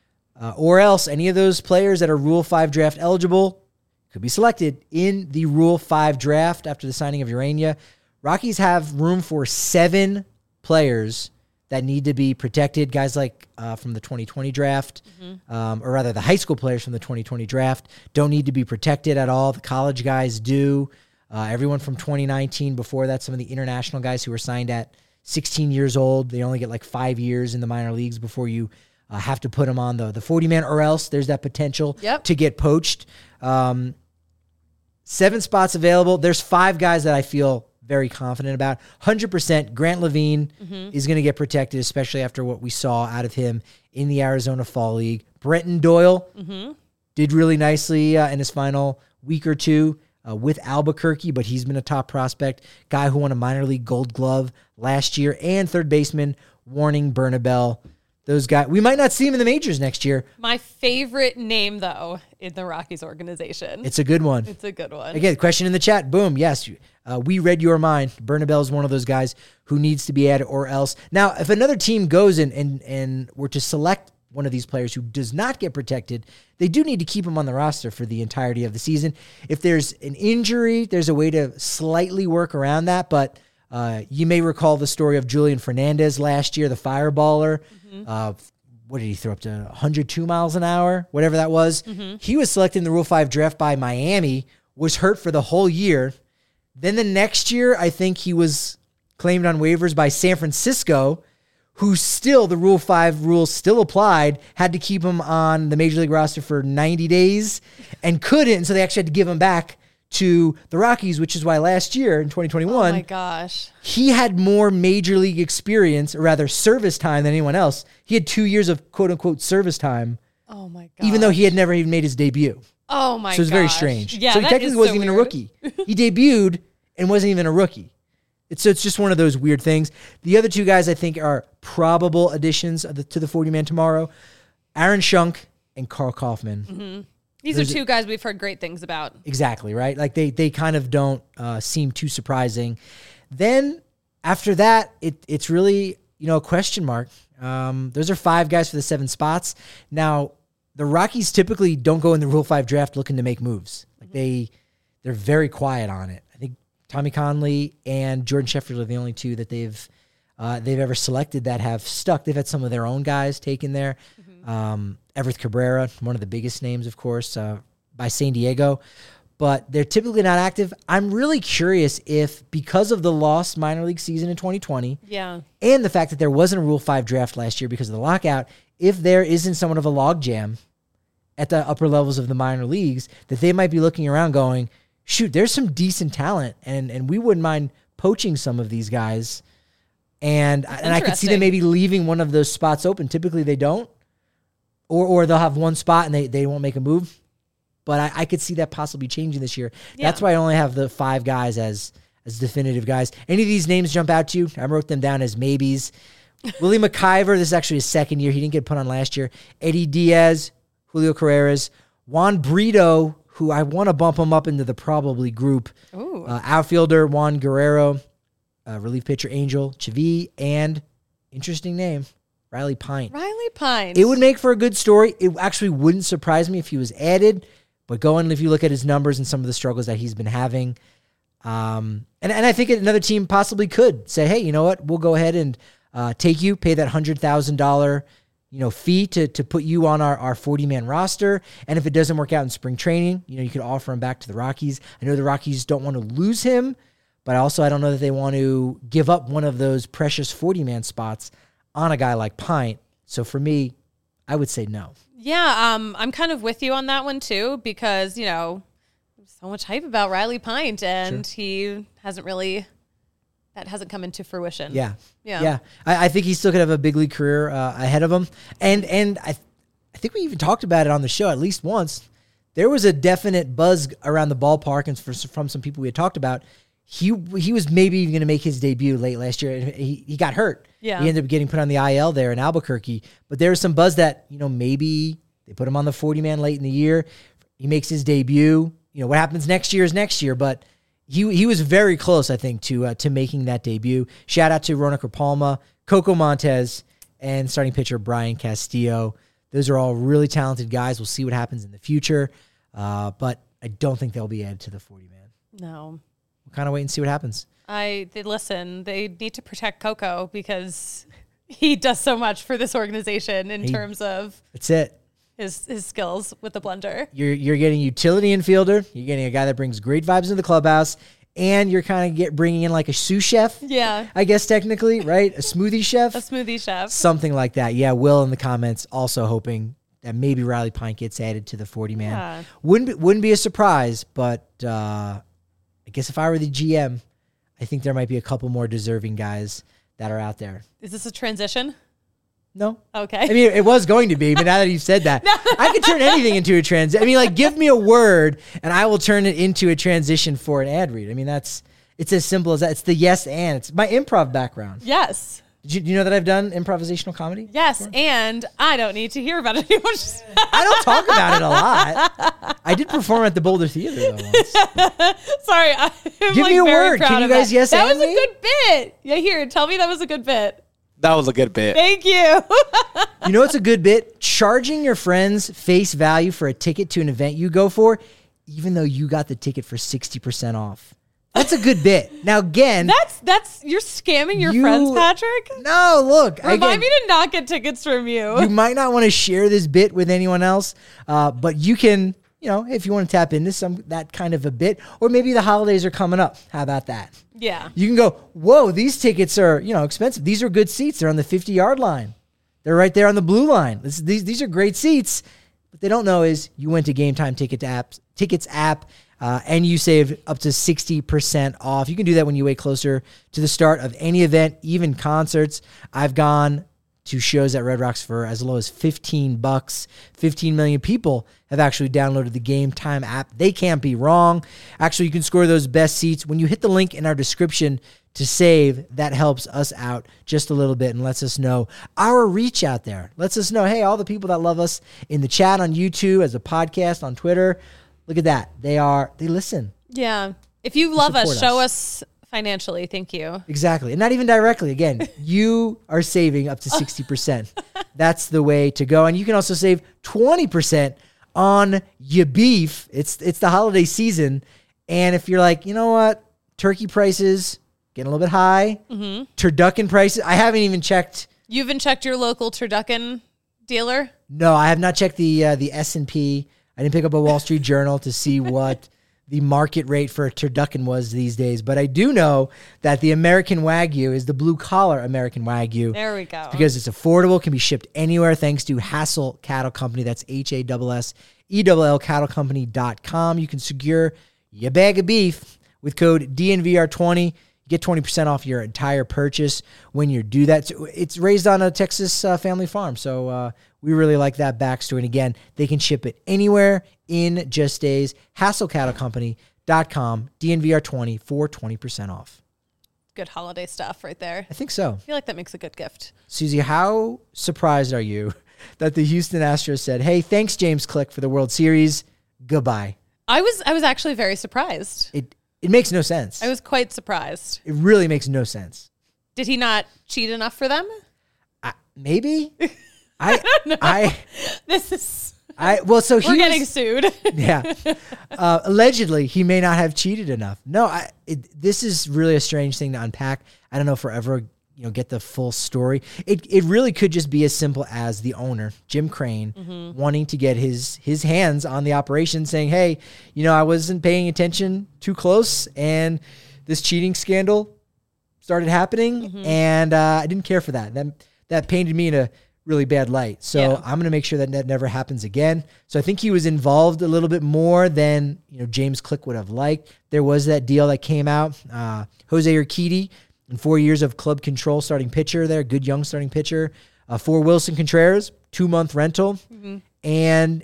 or else any of those players that are Rule 5 draft eligible could be selected in the Rule 5 draft after the signing of Urania. Rockies have room for 7 players that need to be protected. Guys like from the 2020 draft, or rather the high school players from the 2020 draft don't need to be protected at all. The college guys do. Everyone from 2019 before that, some of the international guys who were signed at 16 years old, they only get like 5 years in the minor leagues before you have to put them on the 40-man, or else there's that potential to get poached. 7 spots available. There's 5 guys that I feel very confident about. 100% Grant Levine is going to get protected, especially after what we saw out of him in the Arizona Fall League. Brenton Doyle did really nicely in his final week or two with Albuquerque, but he's been a top prospect. Guy who won a minor league Gold Glove last year. And third baseman Warning Bernabel. Those guys, we might not see him in the majors next year. My favorite name, though, in the Rockies organization. It's a good one. It's a good one. Again, question in the chat. Boom. Yes, we read your mind. Bernabel is one of those guys who needs to be added, or else. Now, if another team goes and were to select one of these players who does not get protected, they do need to keep him on the roster for the entirety of the season. If there's an injury, there's a way to slightly work around that, but you may recall the story of Julian Fernandez last year, the fireballer. What did he throw up to 102 miles an hour? Whatever that was. He was selected in the Rule 5 draft by Miami, was hurt for the whole year. Then the next year, I think he was claimed on waivers by San Francisco, who still, the Rule 5 rules still applied, had to keep him on the Major League roster for 90 days and couldn't, and so they actually had to give him back to the Rockies, which is why last year in 2021, oh my gosh, he had more major league experience, or rather service time, than anyone else. He had 2 years of quote unquote service time. Oh my god! Even though he had never even made his debut. Oh my god! So it was very strange. Yeah, so he technically wasn't even a rookie. He debuted and wasn't even a rookie. It's just one of those weird things. The other 2 guys I think are probable additions to the 40-man tomorrow: Aaron Schunk and Carl Kaufman. These are 2 guys we've heard great things about. Exactly, right? Like they kind of don't seem too surprising. Then after that, it's really, a question mark. Those are 5 guys for the 7 spots. Now, the Rockies typically don't go in the Rule 5 draft looking to make moves. Like they're very quiet on it. I think Tommy Conley and Jordan Sheffield are the only 2 that they've ever selected that have stuck. They've had some of their own guys taken there. Everett Cabrera, one of the biggest names, of course, by San Diego, but they're typically not active. I'm really curious if, because of the lost minor league season in 2020, and the fact that there wasn't a Rule 5 draft last year because of the lockout, if there isn't somewhat of a logjam at the upper levels of the minor leagues, that they might be looking around going, shoot, there's some decent talent, and we wouldn't mind poaching some of these guys. And I could see them maybe leaving one of those spots open. Typically they don't. or they'll have one spot and they won't make a move. But I could see that possibly changing this year. Yeah. That's why I only have the 5 guys as definitive guys. Any of these names jump out to you? I wrote them down as maybes. Willie McIver, this is actually his second year. He didn't get put on last year. Eddie Diaz, Julio Carreras, Juan Brito, who I want to bump him up into the probably group. Ooh. Outfielder, Juan Guerrero, relief pitcher, Angel Chavi, and interesting name, Riley Pint. Riley Pine. It would make for a good story. It actually wouldn't surprise me if he was added, but if you look at his numbers and some of the struggles that he's been having, and I think another team possibly could say, hey, you know what? We'll go ahead and take you, pay that $100,000 fee to put you on our 40-man roster. And if it doesn't work out in spring training, you could offer him back to the Rockies. I know the Rockies don't want to lose him, but I don't know that they want to give up one of those precious 40-man spots on a guy like Pint. So for me, I would say no. Yeah, I'm kind of with you on that one too, because, so much hype about Riley Pint, and he hasn't really, that hasn't come into fruition. Yeah. I think he still could have a big league career ahead of him. And I think we even talked about it on the show at least once. There was a definite buzz around the ballpark and from some people we had talked about. He was maybe even going to make his debut late last year. He got hurt. Yeah. He ended up getting put on the IL there in Albuquerque. But there was some buzz that, maybe they put him on the 40-man late in the year. He makes his debut. What happens next year is next year. But he was very close, I think, to making that debut. Shout out to Ronald Palma, Coco Montez, and starting pitcher Brian Castillo. Those are all really talented guys. We'll see what happens in the future. But I don't think they'll be added to the 40-man. No. We'll kind of wait and see what happens. They need to protect Coco because he does so much for this organization in terms of That's it. his skills with the blender. You're getting a utility infielder. You're getting a guy that brings great vibes into the clubhouse, and you're kind of bringing in like a sous chef. Yeah. I guess technically, right? A smoothie chef. A smoothie chef. Something like that. Yeah, Will in the comments also hoping that maybe Riley Pint gets added to the 40-man. Yeah. Wouldn't be a surprise, but I guess if I were the GM, I think there might be a couple more deserving guys that are out there. Is this a transition? No. Okay. I mean, it was going to be, but now that you've said that, I could turn anything into a transition. I mean, give me a word and I will turn it into a transition for an ad read. I mean, it's as simple as that. It's the yes and. It's my improv background. Yes. Do you know that I've done improvisational comedy? Yes, before? And I don't need to hear about it anymore. I don't talk about it a lot. I did perform at the Boulder Theater though once. Sorry, I'm Give me a word. Can you guys yes that and was me? a good bit. Yeah, here, tell me that was a good bit. That was a good bit. Thank you. You know what's a good bit? Charging your friends face value for a ticket to an event you go for, even though you got the ticket for 60% off. That's a good bit. Now again, that's you're scamming your friends, Patrick. No, look. Remind me to not get tickets from you. You might not want to share this bit with anyone else, but you can, if you want to tap into that kind of a bit, or maybe the holidays are coming up. How about that? Yeah. You can go, whoa, these tickets are, expensive. These are good seats. They're on the 50-yard line. They're right there on the blue line. These are great seats. What they don't know is you went to Game Time Tickets app, and you save up to 60% off. You can do that when you wait closer to the start of any event, even concerts. I've gone to shows at Red Rocks for as low as $15. 15 million people have actually downloaded the Game Time app. They can't be wrong. Actually, you can score those best seats. When you hit the link in our description to save, that helps us out just a little bit and lets us know our reach out there. Lets us know, hey, all the people that love us in the chat on YouTube, as a podcast, on Twitter, look at that. They listen. Yeah. If you love us, support show us. us financially. Thank you. Exactly. And not even directly. Again, you are saving up to 60%. That's the way to go. And you can also save 20% on your beef. It's the holiday season. And if you're like, you know what? Turkey prices getting a little bit high. Mm-hmm. Turducken prices. I haven't even checked. You haven't checked your local turducken dealer? No, I have not checked the S&P. I didn't pick up a Wall Street Journal to see what the market rate for a turducken was these days. But I do know that the American Wagyu is the blue-collar American Wagyu. There we go. Because it's affordable, can be shipped anywhere thanks to Hassel Cattle Company. That's HASSELL cattlecompany.com. You can secure your bag of beef with code DNVR20. You Get 20% off your entire purchase when you do that. So it's raised on a Texas family farm. So we really like that backstory. And again, they can ship it anywhere in just days. HassleCattleCompany.com, DNVR20 for 20% off. Good holiday stuff right there. I think so. I feel like that makes a good gift. Susie, how surprised are you that the Houston Astros said, hey, thanks, James Click, for the World Series. Goodbye. I was actually very surprised. It makes no sense. I was quite surprised. It really makes no sense. Did he not cheat enough for them? Maybe. I don't know. We're getting sued. Yeah. Allegedly, he may not have cheated enough. No, this is really a strange thing to unpack. I don't know if we're ever get the full story. It really could just be as simple as the owner, Jim Crane, wanting to get his hands on the operation, saying, hey, I wasn't paying attention too close, and this cheating scandal started happening, and I didn't care for that. That painted me in a really bad light. So I'm going to make sure that never happens again. So I think he was involved a little bit more than James Click would have liked. There was that deal that came out. Jose Urquidy, in 4 years of club control, starting pitcher there, good young starting pitcher. For Wilson Contreras, 2-month rental. And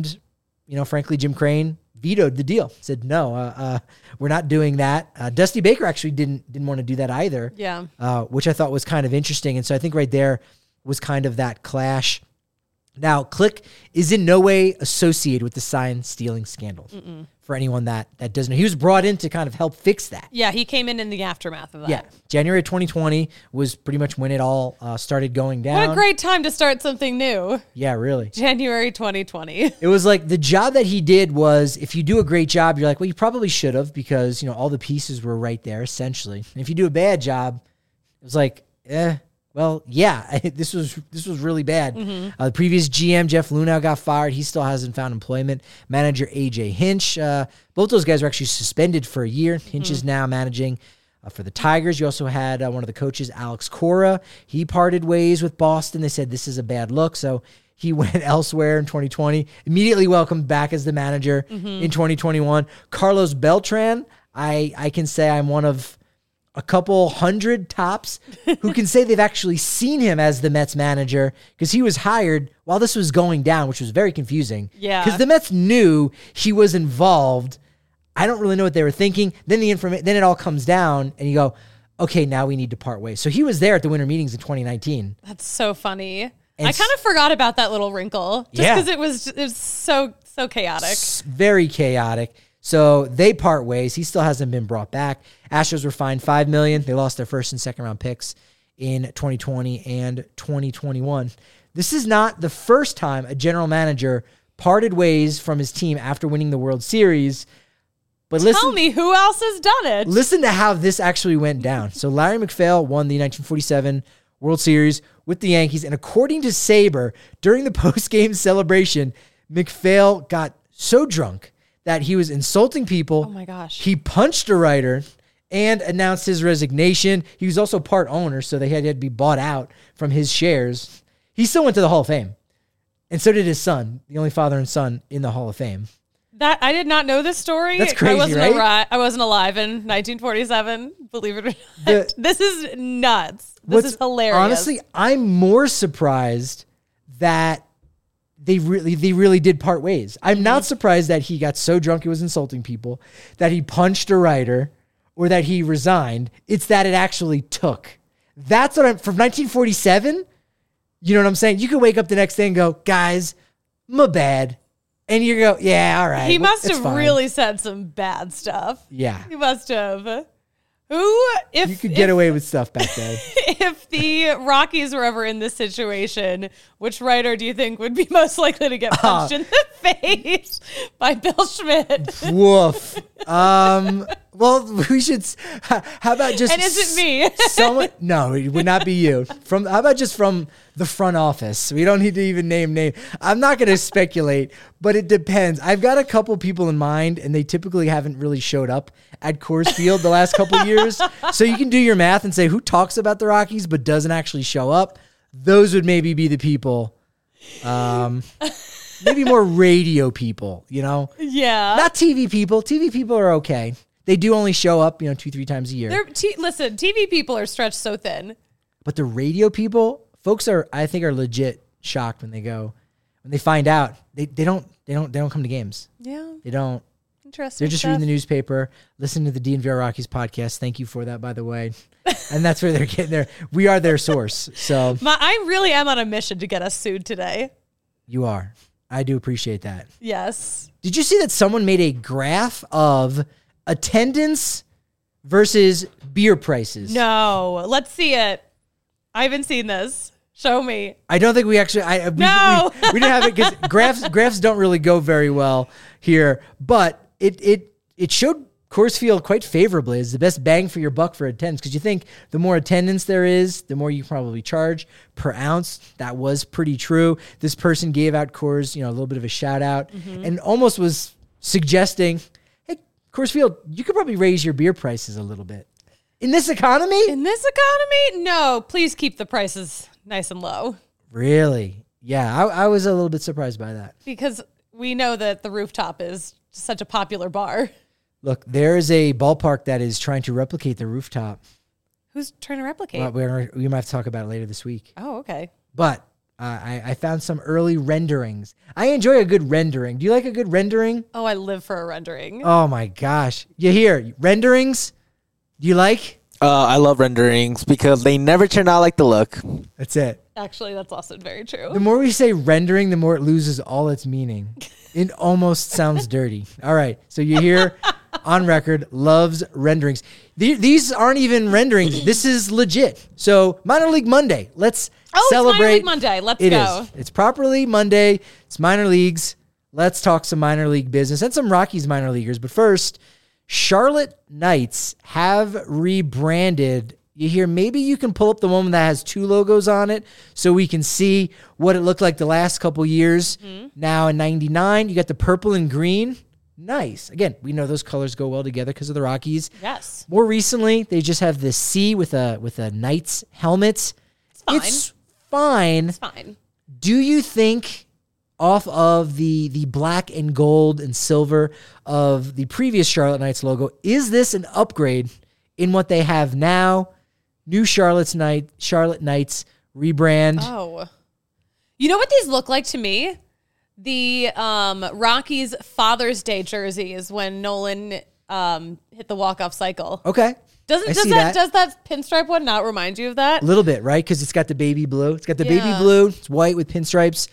frankly, Jim Crane vetoed the deal. Said, no, we're not doing that. Dusty Baker actually didn't want to do that either. Yeah. Which I thought was kind of interesting. And so I think right there was kind of that clash. Now, Click is in no way associated with the sign stealing scandal. For anyone that doesn't know. He was brought in to kind of help fix that. Yeah, he came in the aftermath of that. Yeah, January 2020 was pretty much when it all started going down. What a great time to start something new. Yeah, really. January 2020. It was like the job that he did was, if you do a great job, you're like, well, you probably should have, because, all the pieces were right there, essentially. And if you do a bad job, it was like, well, yeah, this was really bad. The previous GM, Jeff Lunau, got fired. He still hasn't found employment. Manager AJ Hinch, both those guys were actually suspended for a year. Hinch is now managing for the Tigers. You also had one of the coaches, Alex Cora. He parted ways with Boston. They said this is a bad look, so he went elsewhere in 2020. Immediately welcomed back as the manager in 2021. Carlos Beltran, I can say I'm one of a couple hundred tops who can say they've actually seen him as the Mets manager, because he was hired while this was going down, which was very confusing. Yeah. Because the Mets knew he was involved. I don't really know what they were thinking. Then then it all comes down and you go, okay, now we need to part ways. So he was there at the winter meetings in 2019. That's so funny. I kind of forgot about that little wrinkle just because it was so chaotic. Very chaotic. So they part ways. He still hasn't been brought back. Astros were fined $5 million. They lost their first and second round picks in 2020 and 2021. This is not the first time a general manager parted ways from his team after winning the World Series. But Tell me who else has done it. Listen to how this actually went down. So Larry McPhail won the 1947 World Series with the Yankees. And according to Saber, during the post-game celebration, McPhail got so drunk that he was insulting people. Oh my gosh. He punched a writer and announced his resignation. He was also part owner, so they had to be bought out from his shares. He still went to the Hall of Fame. And so did his son, the only father and son in the Hall of Fame. That I did not know this story. That's crazy, right? I wasn't alive in 1947, believe it or not. This is nuts. This is hilarious. Honestly, I'm more surprised that they really did part ways. I'm not surprised that he got so drunk he was insulting people, that he punched a writer, or that he resigned. It's that it actually took. That's what from 1947, you know what I'm saying? You could wake up the next day and go, guys, my bad. And you go, yeah, all right. He must have really said some bad stuff. Yeah. He must have. You could get away with stuff back then. If the Rockies were ever in this situation, which writer do you think would be most likely to get punched in the face by Bill Schmidt? Woof. Well, we should. How about just? And is it me? Someone? No, it would not be you. How about just from the front office? We don't need to even name. I'm not going to speculate, but it depends. I've got a couple people in mind, and they typically haven't really showed up at Coors Field the last couple of years. So you can do your math and say who talks about the Rockies but doesn't actually show up. Those would maybe be the people. Maybe more radio people, Yeah. Not TV people. TV people are okay. They do only show up, 2-3 times a year. Listen, TV people are stretched so thin. But the radio people, folks I think are legit shocked when they go. When they find out, they don't come to games. Yeah. They don't. Interesting. They're just reading the newspaper, listening to the DNVR Rockies podcast. Thank you for that, by the way. And that's where they're getting there. We are their source. So I really am on a mission to get us sued today. you are. I do appreciate that. Yes. Did you see that someone made a graph of attendance versus beer prices? No. Let's see it. I haven't seen this. Show me. I don't think we actually. No. we didn't have it because graphs don't really go very well here. But it showed Coors Field quite favorably as the best bang for your buck for attendance, because you think the more attendance there is, the more you probably charge per ounce. That was pretty true. This person gave out Coors, a little bit of a shout out, and almost was suggesting, hey, Coors Field, you could probably raise your beer prices a little bit. In this economy? In this economy? No, please keep the prices nice and low. Really? Yeah, I was a little bit surprised by that. Because we know that the Rooftop is such a popular bar. Look, there is a ballpark that is trying to replicate the Rooftop. Who's trying to replicate? Well, we might have to talk about it later this week. Oh, okay. But I found some early renderings. I enjoy a good rendering. Do you like a good rendering? Oh, I live for a rendering. Oh, my gosh. You hear renderings? Do you like? I love renderings because they never turn out like the look. That's it. Actually, that's also very true. The more we say rendering, the more it loses all its meaning. It almost sounds dirty. All right. So you hear on record, loves renderings. These aren't even renderings. This is legit. So Minor League Monday. Let's celebrate. It's Minor League Monday. Let's go. It is. It's properly Monday. It's minor leagues. Let's talk some minor league business and some Rockies minor leaguers. But first, Charlotte Knights have rebranded. You hear, maybe you can pull up the one that has 2 logos on it so we can see what it looked like the last couple years. Now in 99, you got the purple and green. Nice. Again, we know those colors go well together because of the Rockies. Yes. More recently, they just have the C with a Knights helmet. It's fine. It's fine. Do you think off of the black and gold and silver of the previous Charlotte Knights logo, is this an upgrade in what they have now? New Charlotte Knights rebrand. Oh. You know what these look like to me? The Rockies Father's Day jerseys when Nolan hit the walk-off cycle. Okay. Does that pinstripe one not remind you of that? A little bit, right? Because it's got the baby blue. It's got the baby Yeah. blue. It's white with pinstripes.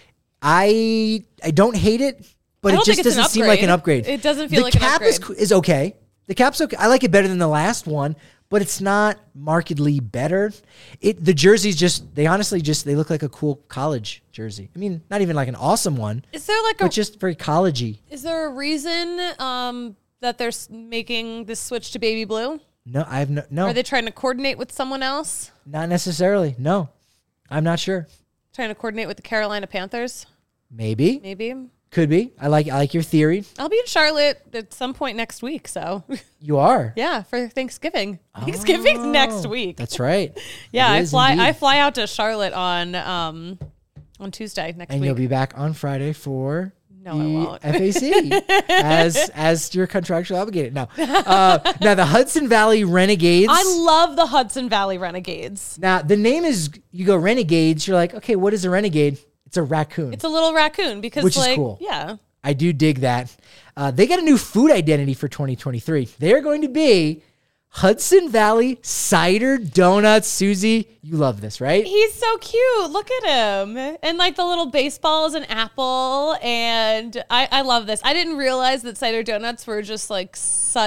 I don't hate it, but I it don't just think it's an doesn't seem like an upgrade. It doesn't feel like an upgrade. The cap is okay. The cap's okay. I like it better than the last one, but it's not markedly better. The jerseys they look like a cool college jersey. I mean, not even like an awesome one. Is there but just very collegey. Is there a reason that they're making this switch to baby blue? No, I have no. Are they trying to coordinate with someone else? Not necessarily. No, I'm not sure. Trying to coordinate with the Carolina Panthers? Maybe. Could be. I like your theory. I'll be in Charlotte at some point next week, so You are. yeah, for Thanksgiving. Thanksgiving's next week. That's right. Yeah, It I is fly indeed. out to Charlotte on Tuesday next And week. you'll be back on Friday for No, I won't. FAC as you're contractually obligated. Now the Hudson Valley Renegades. I love the Hudson Valley Renegades. Now the name is, you go Renegades, you're like, okay, what is a renegade? It's a raccoon. It's a little raccoon because Which is cool. Yeah. I do dig that. They got a new food identity for 2023. They are going to be Hudson Valley Cider Donuts. Susie, you love this, right? He's so cute. Look at him. And like the little baseball is an apple. And I love this. I didn't realize that cider donuts were just like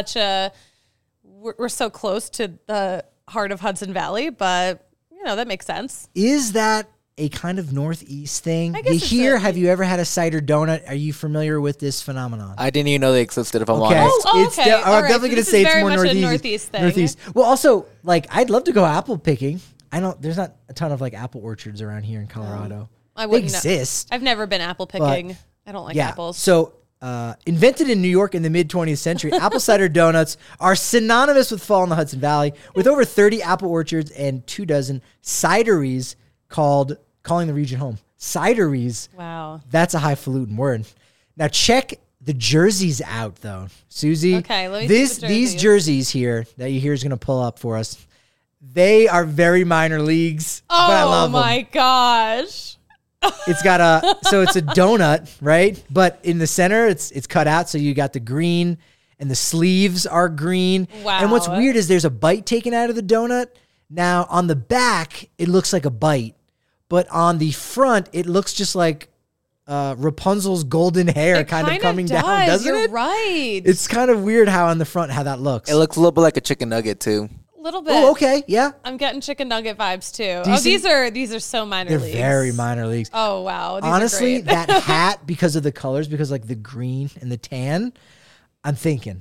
we're so close to the heart of Hudson Valley, but that makes sense. Is that a kind of Northeast thing? I guess Have you ever had a cider donut? Are you familiar with this phenomenon? I didn't even know they existed, if I'm Okay. honest. Okay. I'm All right. definitely So going to this say is it's very more much a Northeast. Northeast thing. Well, also, I'd love to go apple picking. There's not a ton of apple orchards around here in Colorado. I They wouldn't know. exist. I've never been apple picking. I don't like apples. So, invented in New York in the mid 20th century, apple cider donuts are synonymous with fall in the Hudson Valley, with over 30 apple orchards and 24 cideries calling the region home. Cideries. Wow. That's a highfalutin word. Now check The jersey's out though, Susie. Okay, let me see the these jerseys here that you hear is going to pull up for us. They are very minor leagues, but I love them. Oh my gosh. It's got it's a donut, right? But in the center, it's cut out, so you got the green, and the sleeves are green. Wow. And what's weird is there's a bite taken out of the donut. Now on the back, it looks like a bite, but on the front, it looks just like Rapunzel's golden hair kind of coming down, doesn't You're it? right. It's kind of weird how on the front how that looks. It looks a little bit like a chicken nugget too. A little bit. Oh, okay, yeah. I'm getting chicken nugget vibes too. Decent. These are so minor They're leagues. very minor leagues. Oh wow. These Honestly, are great. that hat, because of the colors, because like the green and the tan, I'm thinking,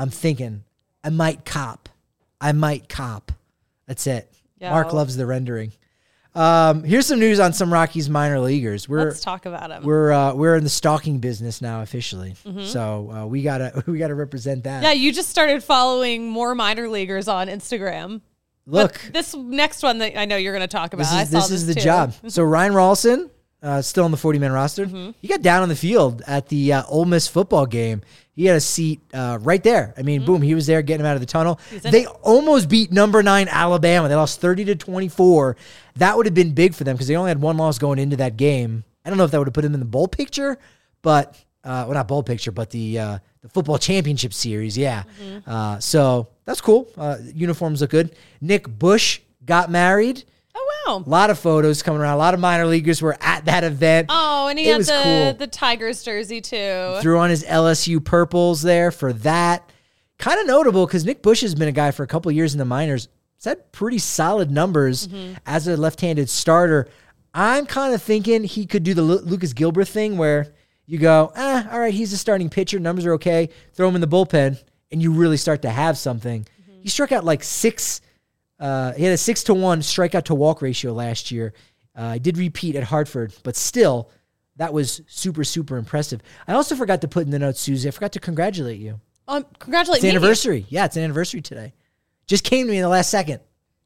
I might cop. That's it. Yo. Mark loves the rendering. Here's some news on some Rockies minor leaguers. Let's talk about them. We're in the stalking business now officially, so we gotta represent that. Yeah, you just started following more minor leaguers on Instagram. Look, But this next one that I know you're going to talk about. this is the job. So Ryan Rawlson, still on the 40-man roster. He got down on the field at the Ole Miss football game. He had a seat right there. I mean, boom, he was there getting him out of the tunnel. They almost beat number 9 Alabama. They lost 30-24. That would have been big for them because they only had one loss going into that game. I don't know if that would have put them in the bowl picture, but well, not bowl picture, but the football championship series. Yeah. So that's cool. Uniforms look good. Nick Bush got married. Oh, wow. A lot of photos coming around. A lot of minor leaguers were at that event. Oh, and he had the Tigers jersey too. Threw on his LSU purples there for that. Kind of notable because Nick Bush has been a guy for a couple of years in the minors. He's had pretty solid numbers as a left-handed starter. I'm kind of thinking he could do the Lucas Gilbert thing where you go, all right, he's a starting pitcher. Numbers are okay. Throw him in the bullpen, and you really start to have something. He struck out like six. He had a 6-to-1 strikeout to walk ratio last year. I did repeat at Hartford, but still, that was super, super impressive. I also forgot to put in the notes, Susie. I forgot to congratulate you. Congratulate It's me. an anniversary. Yeah, it's an anniversary today. Just came to me in the last second.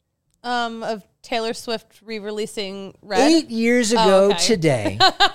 Of Taylor Swift re-releasing Red. 8 years ago today.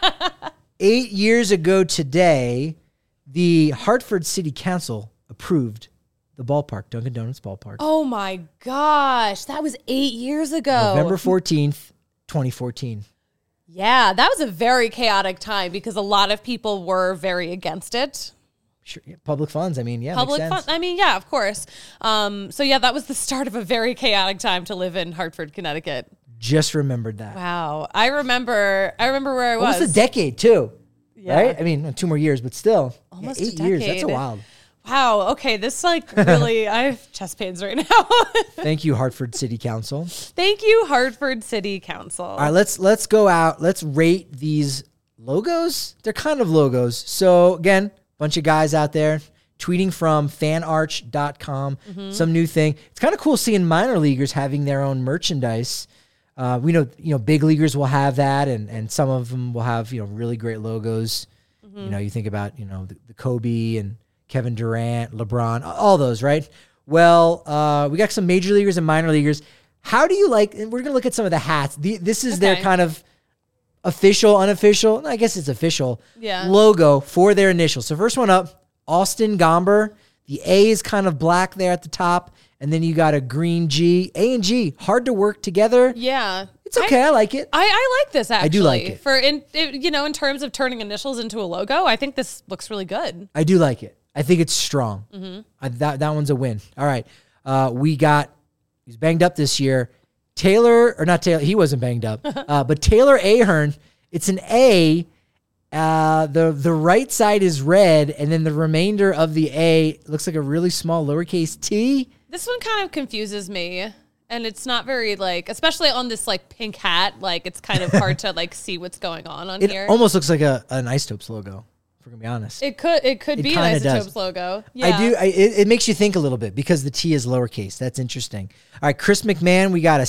8 years ago today, the Hartford City Council approved the ballpark, Dunkin' Donuts ballpark. Oh my gosh, that was 8 years ago. November 14th, 2014. Yeah, that was a very chaotic time because a lot of people were very against it. Sure, yeah, public funds. I mean, yeah, Public makes sense. fun. I mean, yeah, of course. So yeah, that was the start of a very chaotic time to live in Hartford, Connecticut. Just remembered that. Wow, I remember where I was. Almost a decade too, Yeah. right? I mean, 2 more years, but still, Almost yeah, a 8 years. That's a decade. wild. Wow. Okay, this really, I have chest pains right now. Thank you, Hartford City Council. Thank you, Hartford City Council. All right, let's go out. Let's rate these logos. They're kind of logos. So again, bunch of guys out there tweeting from fanarch.com. Some new thing. It's kind of cool seeing minor leaguers having their own merchandise. We know, big leaguers will have that, and some of them will have, really great logos. You think about, the Kobe and Kevin Durant, LeBron, all those, right? Well, we got some major leaguers and minor leaguers. How do you like, and we're going to look at some of the hats. This is their kind of official, unofficial, I guess it's official logo for their initials. So first one up, Austin Gomber. The A is kind of black there at the top, and then you got a green G. A and G, hard to work together. Yeah. It's okay. I like it. I like this, actually. I do like it. For, in terms of turning initials into a logo, I think this looks really good. I do like it. I think it's strong. That one's a win. All right. He's banged up this year. He wasn't banged up, but Taylor Ahern, it's an A. The right side is red, and then the remainder of the A looks like a really small lowercase t. This one kind of confuses me. And it's not very, especially on this, pink hat, it's kind of hard to, see what's going on here. It almost looks like an Isotopes logo, if we're going to be honest. It could be an Isotopes logo. Yeah. I do. It makes you think a little bit because the T is lowercase. That's interesting. All right, Chris McMahon, we got a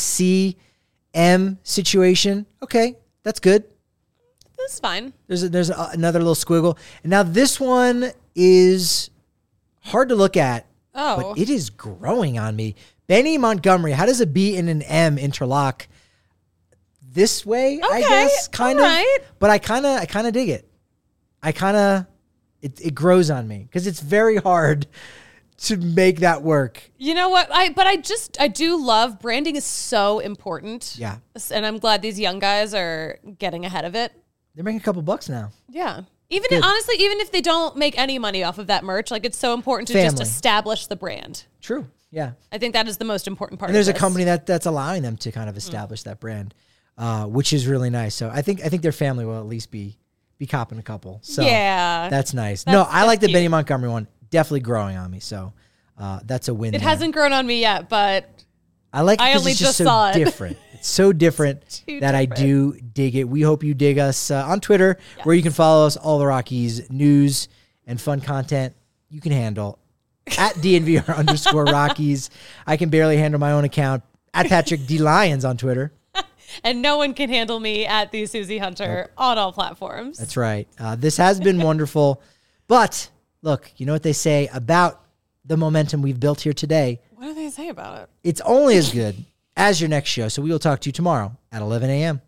C-M situation. Okay, that's good. That's fine. There's another little squiggle. And now this one is hard to look at, but it is growing on me. Benny Montgomery, how does a B and an M interlock this way? I guess kind of. Right. But I kind of dig it. It grows on me because it's very hard to make that work. You know what? I do love branding is so important. Yeah. And I'm glad these young guys are getting ahead of it. They're making a couple bucks now. Yeah. Honestly, even if they don't make any money off of that merch, like it's so important to just establish the brand. True. Yeah. I think that is the most important part. And there's of a company that's allowing them to kind of establish that brand, which is really nice. So I think their family will at least be copping a couple. So yeah, that's nice. I like the Benny Montgomery one. Definitely growing on me. So that's a win. It hasn't grown on me yet, but I like it I because only it's just just so saw it. different. It's so different that I do dig it. We hope you dig us on Twitter, where you can follow us, all the Rockies news and fun content you can handle at DNVR_Rockies. I can barely handle my own account at Patrick D. Lyons on Twitter. And no one can handle me at the Susie Hunter on all platforms. That's right. This has been wonderful. But look, you know what they say about the momentum we've built here today. What do they say about it? It's only as good as your next show. So we will talk to you tomorrow at 11 a.m.